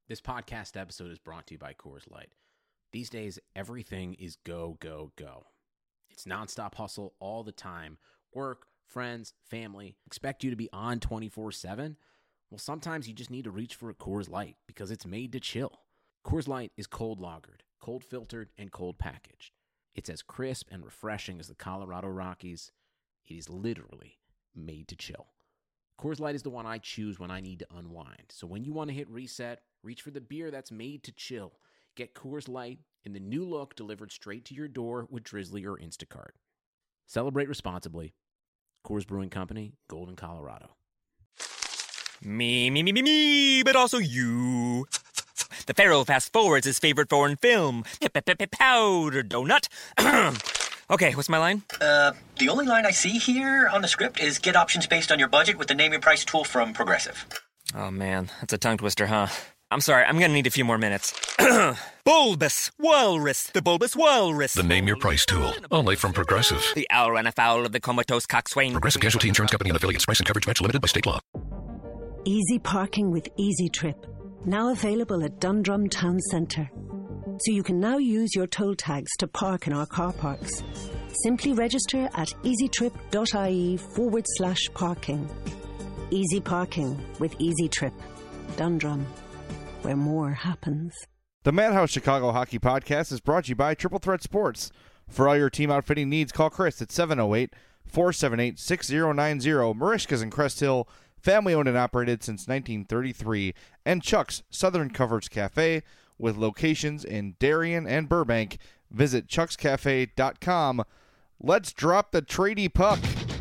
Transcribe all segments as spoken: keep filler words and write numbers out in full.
This podcast episode is brought to you by Coors Light. These days, everything is go, go, go. It's nonstop hustle all the time. Work, friends, family, expect you to be on twenty-four seven. Well, sometimes you just need to reach for a Coors Light because it's made to chill. Coors Light is cold lagered, cold filtered, and cold packaged. It's as crisp and refreshing as the Colorado Rockies. It is literally made to chill. Coors Light is the one I choose when I need to unwind. So when you want to hit reset, reach for the beer that's made to chill. Get Coors Light in the new look delivered straight to your door with Drizzly or Instacart. Celebrate responsibly. Coors Brewing Company, Golden, Colorado. Me, me, me, me, me, but also you. The Pharaoh fast forwards his favorite foreign film, Powder Donut. Okay, what's my line? Uh, the only line I see here on the script is get options based on your budget with the Name Your Price tool from Progressive. Oh man, that's a tongue twister, huh? I'm sorry, I'm gonna need a few more minutes. Bulbous Walrus, the Bulbous Walrus. The Name Your Price tool, only from Progressive. The owl ran afoul of the comatose coxswain. Progressive Casualty Insurance Company and affiliates. Price and coverage match limited by state law. Easy parking with Easy Trip, now available at Dundrum Town Centre. So you can now use your toll tags to park in our car parks. Simply register at easytrip.ie forward slash parking. Easy parking with Easy Trip. Dundrum, where more happens. The Madhouse Chicago Hockey Podcast is brought to you by Triple Threat Sports. For all your team outfitting needs, call Chris at seven oh eight, four seven eight, six oh nine oh. Marishka's in Crest Hill, family owned and operated since nineteen thirty-three. And Chuck's Southern Coverage Cafe, with locations in Darien and Burbank. Visit chucks cafe dot com. Let's drop the tradie puck.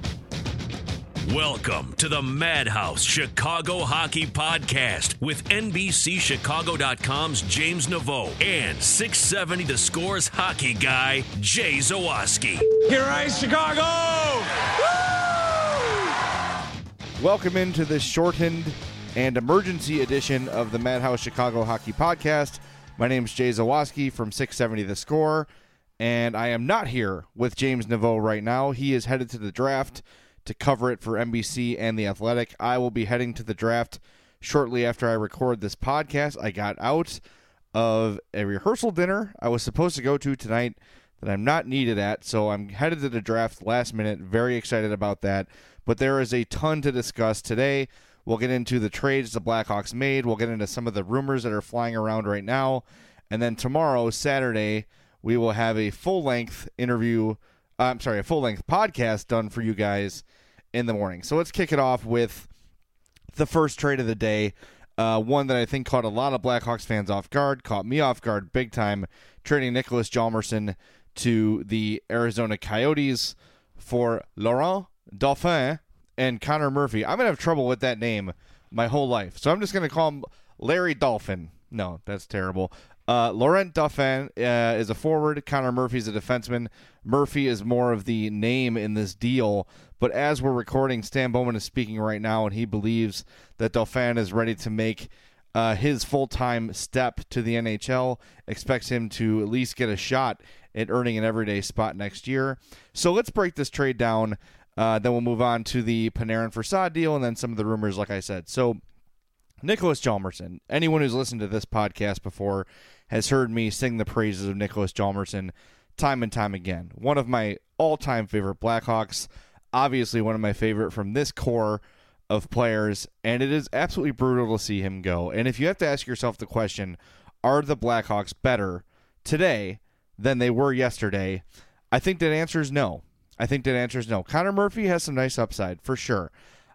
Welcome to the Madhouse Chicago Hockey Podcast with N B C Chicago dot com's James Naveau and six seventy The Score's hockey guy, Jay Zawaski. Here is Chicago! Woo! Welcome into this shortened and emergency edition of the Madhouse Chicago Hockey Podcast. My name is Jay Zawaski from six seventy The Score, and I am not here with James Naveau right now. He is headed to the draft to cover it for N B C and The Athletic. I will be heading to the draft shortly after I record this podcast. I got out of a rehearsal dinner I was supposed to go to tonight that I'm not needed at, so I'm headed to the draft last minute. Very excited about that, but there is a ton to discuss today. We'll get into the trades the Blackhawks made. We'll get into some of the rumors that are flying around right now. And then tomorrow, Saturday, we will have a full-length interview, uh, I'm sorry, a full-length podcast done for you guys in the morning. So let's kick it off with the first trade of the day, uh, one that I think caught a lot of Blackhawks fans off guard, caught me off guard big time, trading Nicholas Hjalmarsson to the Arizona Coyotes for Laurent Dauphin and Connor Murphy. I'm going to have trouble with that name my whole life. So I'm just going to call him Larry Dolphin. No, that's terrible. Uh, Laurent Dauphin uh, is a forward. Connor Murphy's a defenseman. Murphy is more of the name in this deal. But as we're recording, Stan Bowman is speaking right now, and he believes that Dauphin is ready to make uh, his full-time step to the N H L. Expects him to at least get a shot at earning an everyday spot next year. So let's break this trade down. Uh, then we'll move on to the Panarin for Saad deal and then some of the rumors, like I said. So, Nicholas Hjalmarsson. Anyone who's listened to this podcast before has heard me sing the praises of Nicholas Hjalmarsson time and time again. One of my all-time favorite Blackhawks. Obviously, one of my favorite from this core of players. And it is absolutely brutal to see him go. And if you have to ask yourself the question, are the Blackhawks better today than they were yesterday? I think that answer is no. I think that answer is no. Connor Murphy has some nice upside, for sure.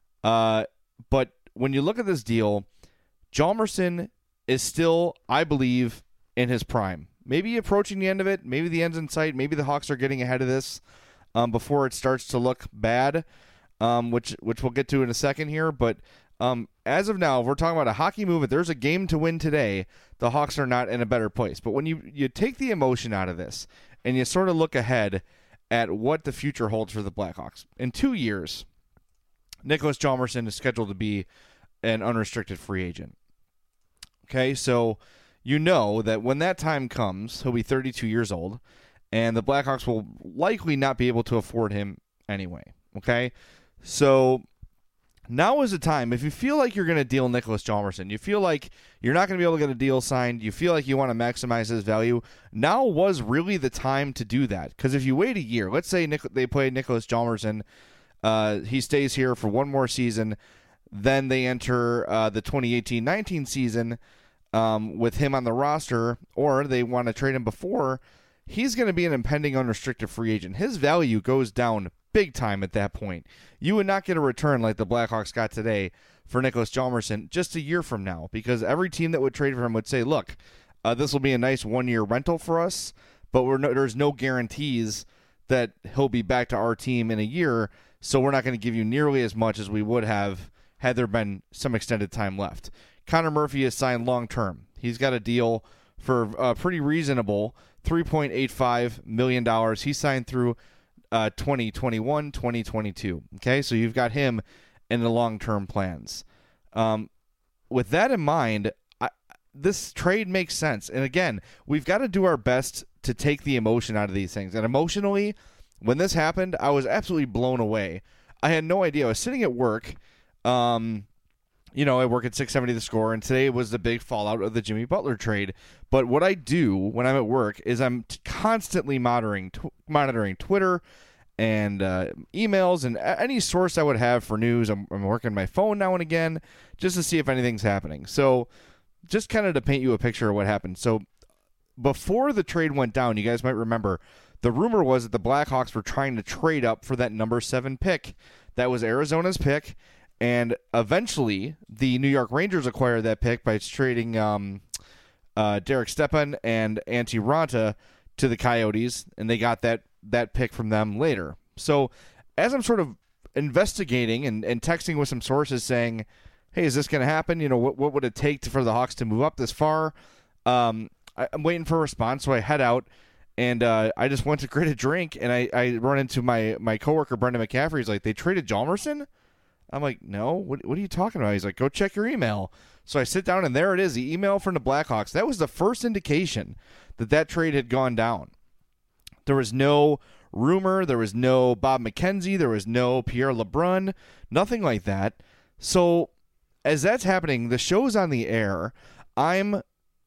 Uh, but when you look at this deal, Hjalmarsson is still, I believe, in his prime. Maybe approaching the end of it. Maybe the end's in sight. Maybe the Hawks are getting ahead of this um, before it starts to look bad, um, which which we'll get to in a second here. But um, as of now, if we're talking about a hockey move, if there's a game to win today, the Hawks are not in a better place. But when you, you take the emotion out of this and you sort of look ahead at what the future holds for the Blackhawks. In two years, Nicholas Hjalmarsson is scheduled to be an unrestricted free agent. Okay, so you know that when that time comes, he'll be thirty-two years old, and the Blackhawks will likely not be able to afford him anyway. Okay, so now is the time. If you feel like you're going to deal Nicholas Hjalmarsson, you feel like you're not going to be able to get a deal signed, you feel like you want to maximize his value, now was really the time to do that. Because if you wait a year, let's say Nic- they play Nicholas Hjalmarsson, uh, he stays here for one more season, then they enter uh, the twenty eighteen nineteen season um, with him on the roster, or they want to trade him before, he's going to be an impending unrestricted free agent. His value goes down big time at that point. You would not get a return like the Blackhawks got today for Nicholas Hjalmarsson just a year from now, because every team that would trade for him would say, look, uh, this will be a nice one-year rental for us, but we're no, there's no guarantees that he'll be back to our team in a year, so we're not going to give you nearly as much as we would have had there been some extended time left. Connor Murphy is signed long-term. He's got a deal for uh, pretty reasonable three point eight five million dollars. He signed through uh, twenty twenty-one, twenty twenty-two. Okay, so you've got him in the long-term plans. Um, with that in mind, I, this trade makes sense. And again, we've got to do our best to take the emotion out of these things. And emotionally, when this happened, I was absolutely blown away. I had no idea. I was sitting at work. Um, you know, I work at six seventy The Score, and today was the big fallout of the Jimmy Butler trade. But what I do when I'm at work is I'm t- constantly monitoring t- monitoring Twitter and uh, emails and a- any source I would have for news. I'm, I'm working my phone now and again just to see if anything's happening. So just kind of to paint you a picture of what happened. So before the trade went down, you guys might remember, the rumor was that the Blackhawks were trying to trade up for that number seven pick. That was Arizona's pick. And eventually, the New York Rangers acquired that pick by trading um, uh, Derek Stepan and Antti Raanta to the Coyotes, and they got that that pick from them later. So as I'm sort of investigating and, and texting with some sources saying, hey, is this going to happen? You know, what what would it take to, for the Hawks to move up this far? Um, I, I'm waiting for a response, so I head out, and uh, I just went to get a drink, and I, I run into my, my coworker, Brendan McCaffrey. He's like, they traded Hjalmarsson? I'm like, no, what, what are you talking about? He's like, go check your email. So I sit down, and there it is, the email from the Blackhawks. That was the first indication that that trade had gone down. There was no rumor. There was no Bob McKenzie. There was no Pierre LeBrun. Nothing like that. So as that's happening, the show's on the air. I'm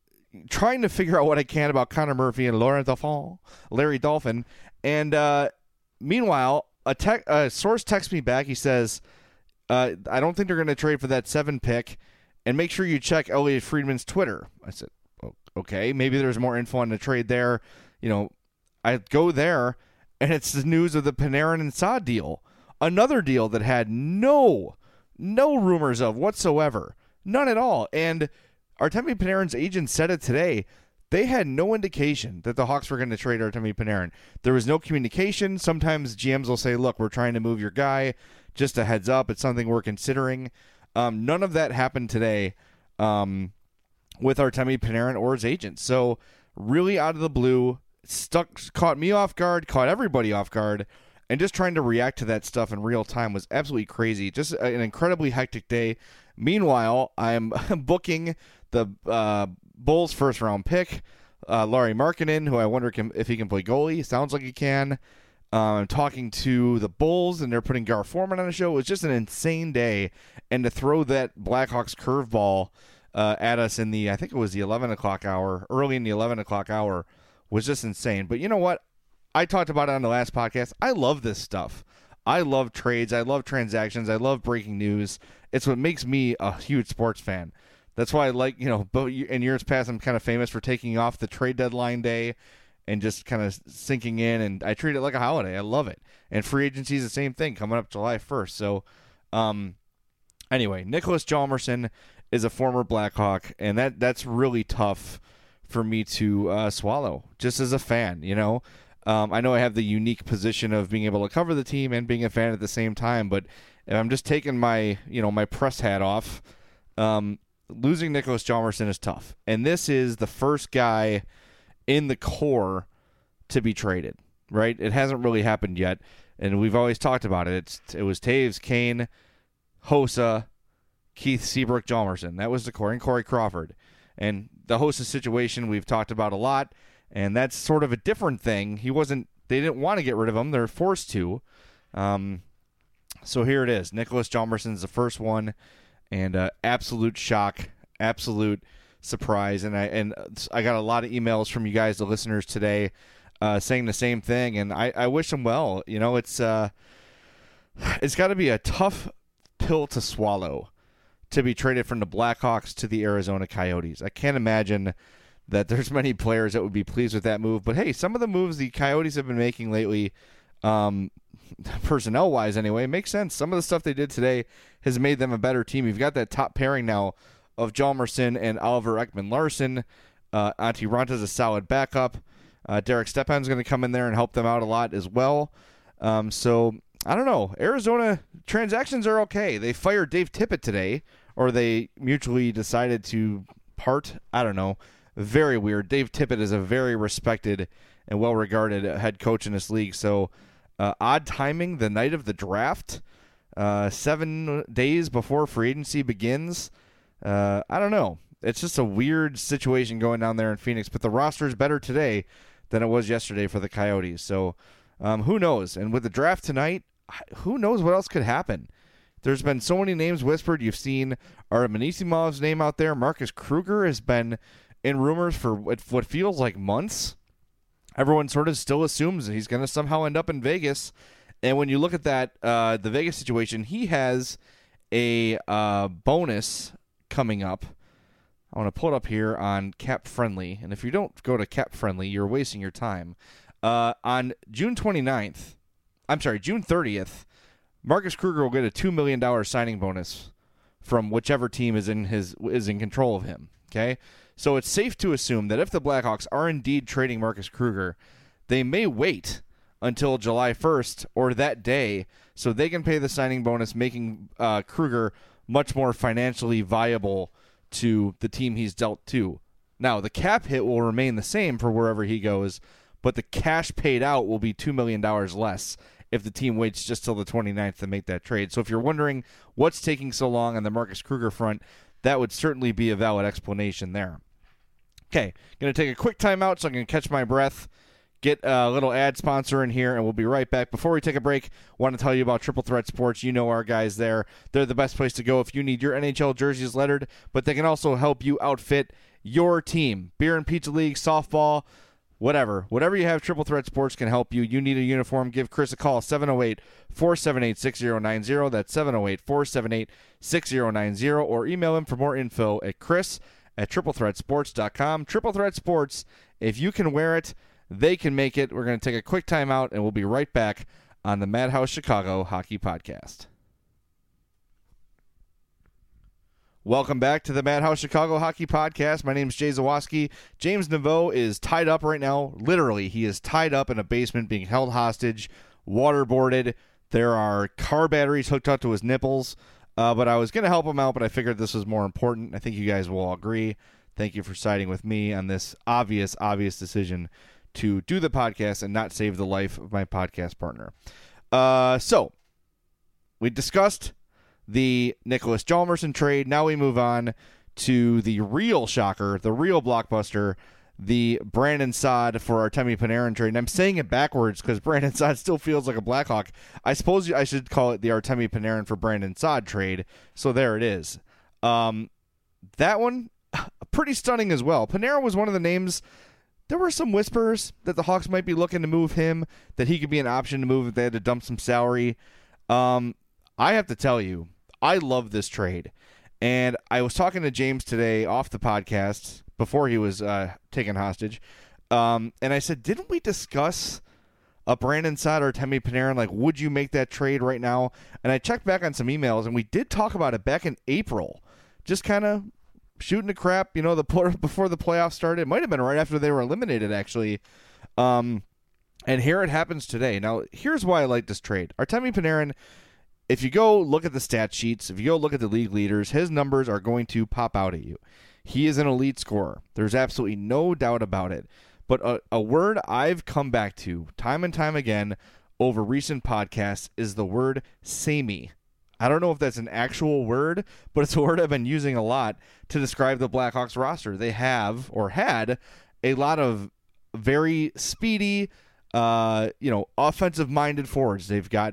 trying to figure out what I can about Connor Murphy and Laurent Dauphin, Larry Dolphin. And uh, meanwhile, a, te- a source texts me back. He says, Uh, I don't think they're going to trade for that seven pick, and make sure you check Elliot Friedman's Twitter. I said, oh, okay, maybe there's more info on the trade there. You know, I go there, and it's the news of the Panarin and Saad deal, another deal that had no, no rumors of whatsoever, none at all. And Artemi Panarin's agent said it today. They had no indication that the Hawks were going to trade Artemi Panarin. There was no communication. Sometimes G Ms will say, look, we're trying to move your guy. Just a heads up, it's something we're considering. Um, none of that happened today um, with Artemi Panarin or his agent. So really out of the blue, stuck, caught me off guard, caught everybody off guard, and just trying to react to that stuff in real time was absolutely crazy. Just an incredibly hectic day. Meanwhile, I'm booking the uh, Bulls first round pick, uh, Lauri Markkanen, who I wonder can, if he can play goalie. Sounds like he can. I'm um, talking to the Bulls, and they're putting Gar Forman on the show. It was just an insane day. And to throw that Blackhawks curveball uh, at us in the, I think it was the eleven o'clock hour, early in the eleven o'clock hour, was just insane. But you know what? I talked about it on the last podcast. I love this stuff. I love trades. I love transactions. I love breaking news. It's what makes me a huge sports fan. That's why I like, you know, in years past, I'm kind of famous for taking off the trade deadline day and just kind of sinking in, and I treat it like a holiday. I love it. And free agency is the same thing, coming up July first. So, um, anyway, Nicholas Hjalmarsson is a former Blackhawk, and that that's really tough for me to uh, swallow, just as a fan, you know. Um, I know I have the unique position of being able to cover the team and being a fan at the same time, but if I'm just taking my, you know, my press hat off, um, losing Nicholas Hjalmarsson is tough. And this is the first guy in the core to be traded, right? It hasn't really happened yet, and we've always talked about it. It's, it was Taves, Kane, Hossa, Keith Seabrook, Hjalmarsson. That was the core, and Corey Crawford. And the Hossa situation we've talked about a lot, and that's sort of a different thing. He wasn't, they didn't want to get rid of him. They're forced to. Um, So here it is. Nicholas Hjalmarsson's the first one, and uh, absolute shock, absolute surprise. And I and I got a lot of emails from you guys, the listeners today, uh, saying the same thing. And I, I wish him well. You know, it's uh, it's got to be a tough pill to swallow to be traded from the Blackhawks to the Arizona Coyotes. I can't imagine that there's many players that would be pleased with that move. But hey, some of the moves the Coyotes have been making lately, um, personnel-wise anyway, makes sense. Some of the stuff they did today has made them a better team. You've got that top pairing now of Hjalmarsson and Oliver Ekman-Larsson. Uh, Antti Ranta's a solid backup. Uh, Derek Stepan's going to come in there and help them out a lot as well. Um, so, I don't know. Arizona transactions are okay. They fired Dave Tippett today, or they mutually decided to part. I don't know. Very weird. Dave Tippett is a very respected and well-regarded head coach in this league. So, uh, odd timing the night of the draft, uh, seven days before free agency begins. Uh, I don't know. It's just a weird situation going down there in Phoenix. But the roster is better today than it was yesterday for the Coyotes. So, um, who knows? And with the draft tonight, who knows what else could happen? There's been so many names whispered. You've seen Artem Anisimov's name out there. Marcus Kruger has been in rumors for what feels like months. Everyone sort of still assumes that he's going to somehow end up in Vegas. And when you look at that, uh, the Vegas situation, he has a uh, bonus coming up. I want to pull it up here on Cap Friendly. And if you don't go to Cap Friendly, you're wasting your time. Uh, on June twenty-ninth, I'm sorry, June thirtieth, Marcus Kruger will get a two million dollars signing bonus from whichever team is in his is in control of him. Okay? So it's safe to assume that if the Blackhawks are indeed trading Marcus Kruger, they may wait until July first or that day so they can pay the signing bonus, making uh, Kruger much more financially viable to the team he's dealt to. Now, the cap hit will remain the same for wherever he goes, but the cash paid out will be two million dollars less if the team waits just till the twenty-ninth to make that trade. So if you're wondering what's taking so long on the Marcus Kruger front, that would certainly be a valid explanation there. Okay, going to take a quick timeout so I can catch my breath, get a little ad sponsor in here, and we'll be right back. Before we take a break, I want to tell you about Triple Threat Sports. You know our guys there. They're the best place to go if you need your N H L jerseys lettered, but they can also help you outfit your team. Beer and Pizza League, softball, whatever. Whatever you have, Triple Threat Sports can help you. You need a uniform, give Chris a call, seven oh eight, four seven eight, six oh nine oh. That's seven oh eight, four seven eight, six oh nine oh. Or email him for more info at chris at triple threat sports dot com. Triple Threat Sports, if you can wear it, they can make it. We're going to take a quick timeout, and we'll be right back on the Madhouse Chicago Hockey Podcast. Welcome back to the Madhouse Chicago Hockey Podcast. My name is Jay Zawaski. James Naveau is tied up right now. Literally, he is tied up in a basement being held hostage, waterboarded. There are car batteries hooked up to his nipples. Uh, but I was going to help him out, but I figured this was more important. I think you guys will all agree. Thank you for siding with me on this obvious, obvious decision to do the podcast and not save the life of my podcast partner. Uh, so, we discussed the Nicholas Hjalmarsson trade. Now we move on to the real shocker, the real blockbuster, the Brandon Saad for Artemi Panarin trade. And I'm saying it backwards because Brandon Saad still feels like a Blackhawk. I suppose I should call it the Artemi Panarin for Brandon Saad trade. So there it is. Um, that one, pretty stunning as well. Panarin was one of the names. There were some whispers that the Hawks might be looking to move him, that he could be an option to move if they had to dump some salary. Um, I have to tell you, I love this trade. And I was talking to James today off the podcast before he was uh, taken hostage. Um, and I said, didn't we discuss a Brandon Saad or Artemi Panarin? Like, would you make that trade right now? And I checked back on some emails, and we did talk about it back in April. Just kind of shooting the crap, you know, the before the playoffs started. It might have been right after they were eliminated, actually. Um, and here it happens today. Now, here's why I like this trade. Artemi Panarin, if you go look at the stat sheets, if you go look at the league leaders, his numbers are going to pop out at you. He is an elite scorer. There's absolutely no doubt about it. But a, a word I've come back to time and time again over recent podcasts is the word samey. I don't know if that's an actual word, but it's a word I've been using a lot to describe the Blackhawks roster. They have, or had, a lot of very speedy, uh, you know, offensive-minded forwards. They've got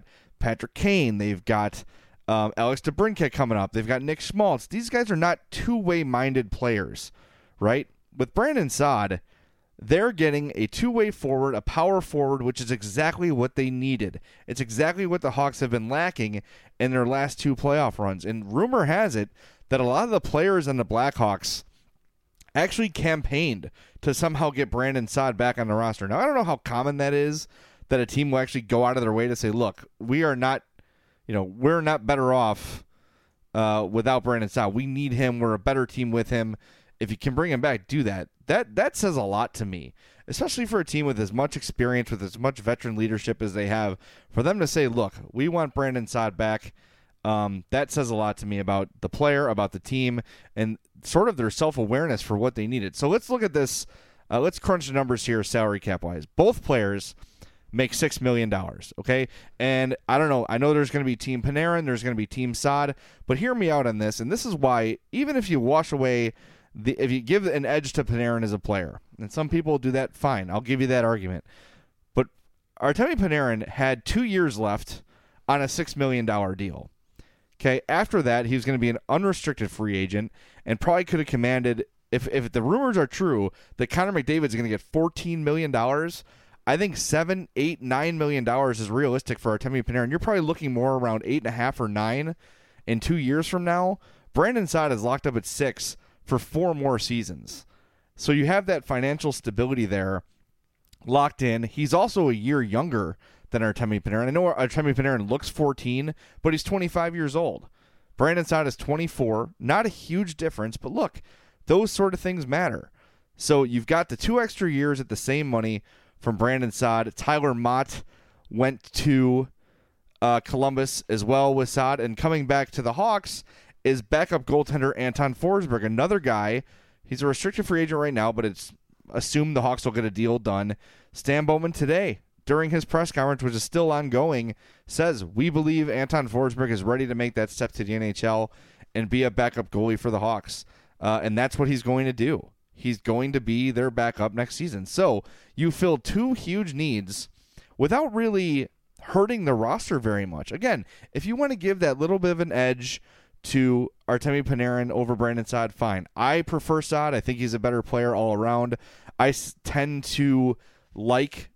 Patrick Kane. They've got um, Alex DeBrincat coming up. They've got Nick Schmaltz. These guys are not two-way minded players, right? With Brandon Saad, they're getting a two-way forward, a power forward, which is exactly what they needed. It's exactly what the Hawks have been lacking in their last two playoff runs. And rumor has it that a lot of the players on the Blackhawks actually campaigned to somehow get Brandon Saad back on the roster. Now, I don't know how common that is, that a team will actually go out of their way to say, look, we are not, you know, we're not better off uh, without Brandon Saad. We need him. We're a better team with him. If you can bring him back, do that. That that says a lot to me, especially for a team with as much experience, with as much veteran leadership as they have. For them to say, look, we want Brandon Saad back, um, that says a lot to me about the player, about the team, and sort of their self-awareness for what they needed. So let's look at this. Uh, let's crunch the numbers here salary cap-wise. Both players make six million dollars, okay? And I don't know. I know there's going to be Team Panarin. There's going to be Team Saad. But hear me out on this, and this is why, even if you wash away The, if you give an edge to Panarin as a player, and some people do that, fine. I'll give you that argument. But Artemi Panarin had two years left on a six million dollars deal. Okay, after that, he was going to be an unrestricted free agent and probably could have commanded, if, if the rumors are true, that Connor McDavid is going to get fourteen million dollars. I think seven, eight, nine million dollars is realistic for Artemi Panarin. You're probably looking more around eight and a half or nine in two years from now. Brandon Saad is locked up at six for four more seasons. So you have that financial stability there locked in. He's also a year younger than Artemi Panarin. I know Artemi Panarin looks fourteen, but he's twenty-five years old. Brandon Saad is twenty-four. Not a huge difference, but look, those sort of things matter. So you've got the two extra years at the same money from Brandon Saad. Tyler Mott went to uh, Columbus as well with Saad, and coming back to the Hawks is backup goaltender Anton Forsberg, another guy. He's a restricted free agent right now, but it's assumed the Hawks will get a deal done. Stan Bowman today, during his press conference, which is still ongoing, says, we believe Anton Forsberg is ready to make that step to the N H L and be a backup goalie for the Hawks. Uh, and that's what he's going to do. He's going to be their backup next season. So you fill two huge needs without really hurting the roster very much. Again, if you want to give that little bit of an edge to Artemi Panarin over Brandon Saad, fine. I prefer Saad. I think he's a better player all around. I s- tend to like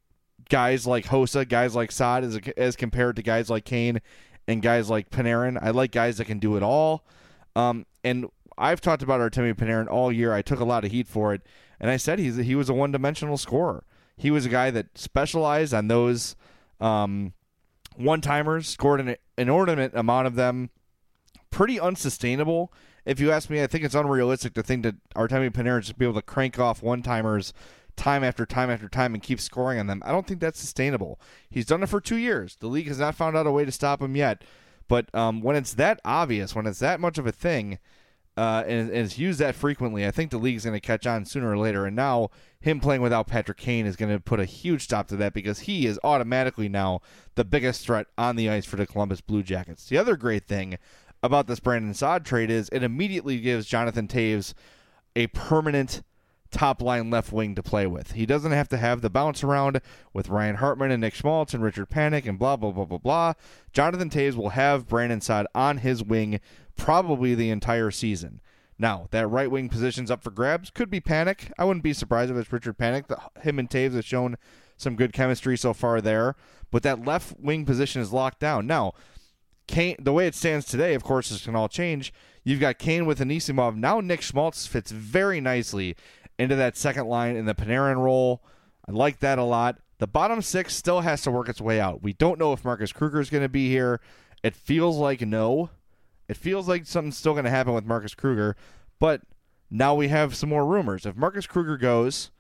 guys like Hossa, guys like Saad as, as compared to guys like Kane and guys like Panarin. I like guys that can do it all. Um, and I've talked about Artemi Panarin all year. I took a lot of heat for it, and I said he's he was a one-dimensional scorer. He was a guy that specialized on those um, one-timers, scored an inordinate amount of them. Pretty unsustainable. If you ask me, I think it's unrealistic to think that Artemi Panarin should be able to crank off one-timers time after time after time and keep scoring on them. I don't think that's sustainable. He's done it for two years. The league has not found out a way to stop him yet. But um, when it's that obvious, when it's that much of a thing, uh, and, and it's used that frequently, I think the league's going to catch on sooner or later. And now him playing without Patrick Kane is going to put a huge stop to that, because he is automatically now the biggest threat on the ice for the Columbus Blue Jackets. The other great thing about this Brandon Saad trade is it immediately gives Jonathan Toews a permanent top-line left wing to play with. He doesn't have to have the bounce around with Ryan Hartman and Nick Schmaltz and Richard Panik and blah, blah, blah, blah, blah. Jonathan Toews will have Brandon Saad on his wing probably the entire season. Now, that right wing position's up for grabs. Could be Panik. I wouldn't be surprised if it's Richard Panik. The, him and Toews have shown some good chemistry so far there. But that left wing position is locked down. Now, Kane, the way it stands today, of course, this can all change. You've got Kane with Anisimov. Now Nick Schmaltz fits very nicely into that second line in the Panarin role. I like that a lot. The bottom six still has to work its way out. We don't know if Marcus Kruger is going to be here. It feels like no. It feels like something's still going to happen with Marcus Kruger. But now we have some more rumors. If Marcus Kruger goes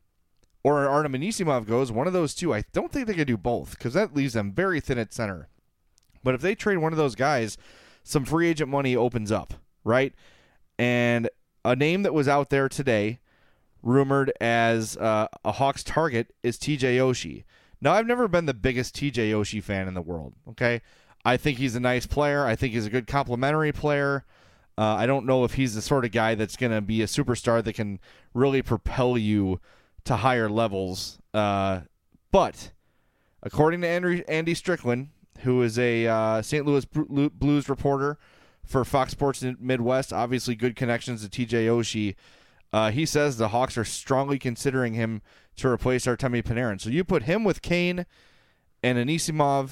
or Artem Anisimov goes, one of those two, I don't think they can do both, because that leaves them very thin at center. But if they trade one of those guys, some free agent money opens up, right? And a name that was out there today, rumored as uh, a Hawks target, is T J Oshie. Now, I've never been the biggest T J Oshie fan in the world, okay? I think he's a nice player. I think he's a good complementary player. Uh, I don't know if he's the sort of guy that's going to be a superstar that can really propel you to higher levels. Uh, but according to Andy, Andy Strickland, who is a uh, Saint Louis Blues reporter for Fox Sports Midwest, obviously good connections to T J Oshie. Uh, he says the Hawks are strongly considering him to replace Artemi Panarin. So you put him with Kane and Anisimov,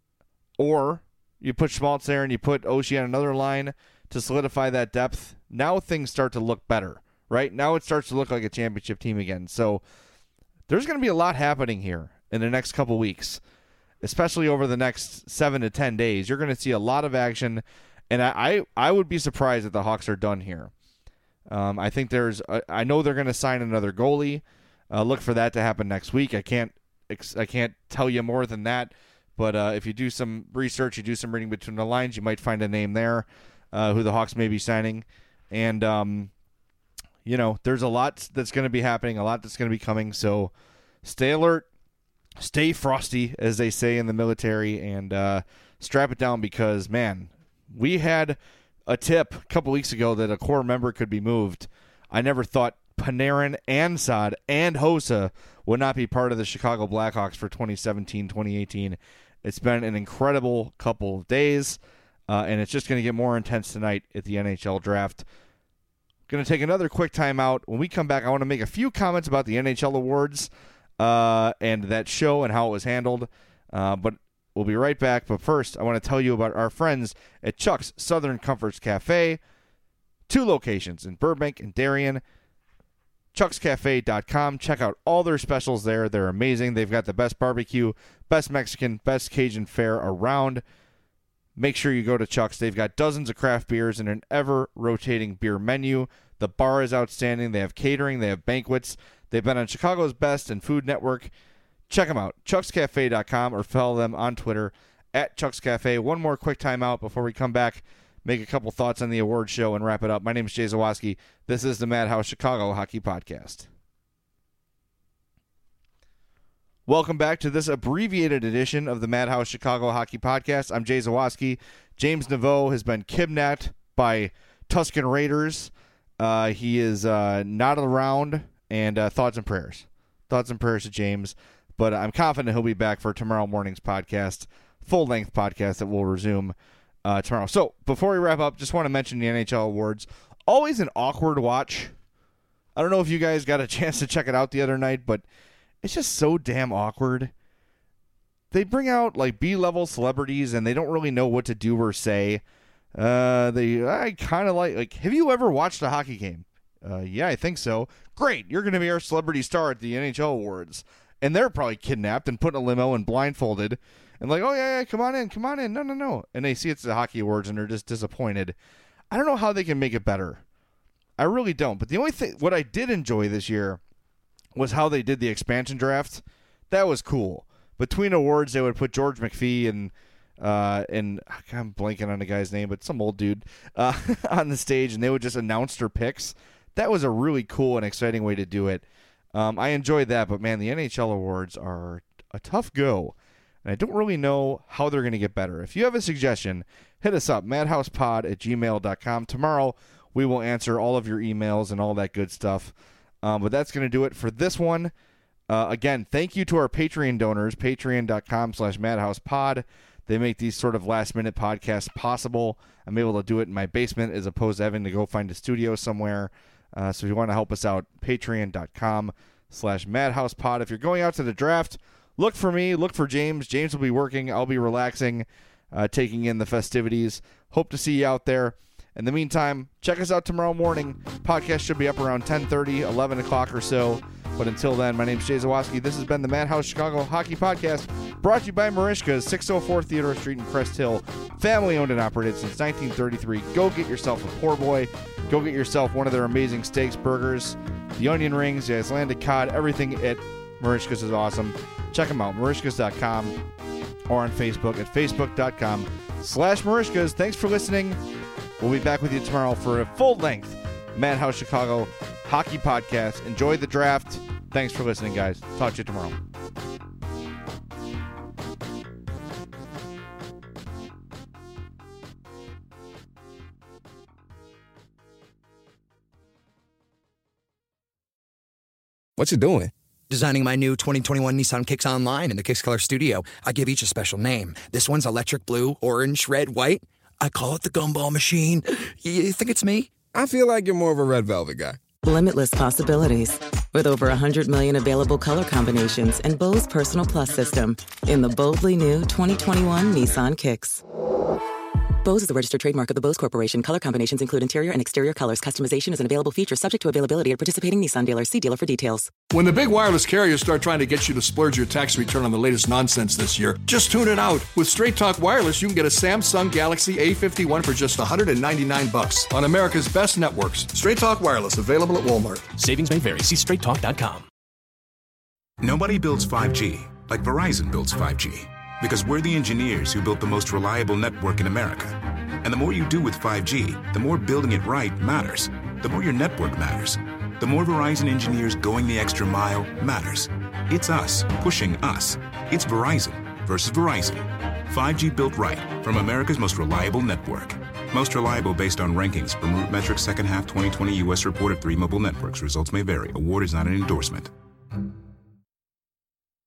or you put Schmaltz there and you put Oshie on another line to solidify that depth. Now things start to look better, right? Now it starts to look like a championship team again. So there's going to be a lot happening here in the next couple weeks, especially over the next seven to ten days. You're going to see a lot of action, and I, I, I would be surprised if the Hawks are done here. Um, I think there's, a, I know they're going to sign another goalie. Uh, look for that to happen next week. I can't, I can't tell you more than that. But uh, if you do some research, you do some reading between the lines, you might find a name there uh, who the Hawks may be signing. And um, you know, there's a lot that's going to be happening, a lot that's going to be coming. So stay alert, stay frosty, as they say in the military, and uh, strap it down because, man, we had a tip a couple weeks ago that a core member could be moved. I never thought Panarin and Saad and Hossa would not be part of the Chicago Blackhawks for twenty seventeen twenty eighteen. It's been an incredible couple of days, uh, and it's just going to get more intense tonight at the N H L draft. Going to take another quick timeout. When we come back, I want to make a few comments about the N H L awards uh, and that show and how it was handled. Uh, but we'll be right back. But first, I want to tell you about our friends at Chuck's Southern Comforts Cafe. Two locations in Burbank and Darien. chucks cafe dot com. Check out all their specials there. They're amazing. They've got the best barbecue, best Mexican, best Cajun fare around. Make sure you go to Chuck's. They've got dozens of craft beers and an ever-rotating beer menu. The bar is outstanding. They have catering. They have banquets. They've been on Chicago's Best and Food Network. Check them out, chucks cafe dot com, or follow them on Twitter at Chuck's Cafe. One more quick timeout before we come back, make a couple thoughts on the award show, and wrap it up. My name is Jay Zawaski. This is the Madhouse Chicago Hockey Podcast. Welcome back to this abbreviated edition of the Madhouse Chicago Hockey Podcast. I'm Jay Zawaski. James Naveau has been kidnapped by Tuscan Raiders. Uh, he is uh, not around, and uh, thoughts and prayers. Thoughts and prayers to James. But I'm confident he'll be back for tomorrow morning's podcast, full-length podcast that will resume uh, tomorrow. So before we wrap up, just want to mention the N H L awards. Always an awkward watch. I don't know if you guys got a chance to check it out the other night, but it's just so damn awkward. They bring out like B-level celebrities, and they don't really know what to do or say. Uh, they I kind of like like. Have you ever watched a hockey game? Uh, yeah, I think so. Great, you're going to be our celebrity star at the N H L awards, and they're probably kidnapped and put in a limo and blindfolded, and like, oh yeah, yeah, come on in, come on in. No, no, no. And they see it's the hockey awards, and they're just disappointed. I don't know how they can make it better. I really don't. But the only thing, what I did enjoy this year was how they did the expansion draft. That was cool. Between awards, they would put George McPhee and uh, and I'm blanking on the guy's name, but some old dude uh, on the stage, and they would just announce their picks. That was a really cool and exciting way to do it. Um, I enjoyed that, but man, the N H L awards are a tough go, and I don't really know how they're going to get better. If you have a suggestion, hit us up, madhousepod at gmail dot com. Tomorrow, we will answer all of your emails and all that good stuff. Um, but that's going to do it for this one. Uh, again, thank you to our Patreon donors, patreon dot com slash madhousepod. They make these sort of last-minute podcasts possible. I'm able to do it in my basement as opposed to having to go find a studio somewhere. Uh, so if you want to help us out, patreon dot com slash madhousepod. If you're going out to the draft, look for me, look for James. James will be working. I'll be relaxing, uh, taking in the festivities. Hope to see you out there. In the meantime, check us out tomorrow morning. Podcast should be up around ten thirty, eleven o'clock or so. But until then, my name is Jay Zawaski. This has been the Madhouse Chicago Hockey Podcast, brought to you by Marishka's, six oh four Theodore Street in Crest Hill. Family owned and operated since nineteen thirty-three. Go get yourself a poor boy. Go get yourself one of their amazing steaks, burgers, the onion rings, the Icelandic cod. Everything at Marishka's is awesome. Check them out, marishkas dot com, or on Facebook at facebook dot com slash Marishkas. Thanks for listening. We'll be back with you tomorrow for a full-length Madhouse Chicago Hockey Podcast. Enjoy the draft. Thanks for listening, guys. Talk to you tomorrow. What you doing? Designing my new twenty twenty-one Nissan Kicks online in the Kicks Color Studio, I give each a special name. This one's electric blue, orange, red, white. I call it the Gumball Machine. You think it's me? I feel like you're more of a Red Velvet guy. Limitless possibilities. With over one hundred million available color combinations and Bose Personal Plus system in the boldly new twenty twenty-one Nissan Kicks. Bose is a registered trademark of the Bose Corporation. Color combinations include interior and exterior colors. Customization is an available feature subject to availability at participating Nissan dealers. See dealer for details. When the big wireless carriers start trying to get you to splurge your tax return on the latest nonsense this year, just tune it out. With Straight Talk Wireless, you can get a Samsung Galaxy A fifty-one for just one hundred ninety-nine bucks on America's best networks. Straight Talk Wireless, available at Walmart. Savings may vary. See straight talk dot com. Nobody builds five G like Verizon builds five G. Because we're the engineers who built the most reliable network in America. And the more you do with five G, the more building it right matters. The more your network matters. The more Verizon engineers going the extra mile matters. It's us pushing us. It's Verizon versus Verizon. five G built right from America's most reliable network. Most reliable based on rankings from RootMetrics second half twenty twenty U S report of three mobile networks. Results may vary. Award is not an endorsement.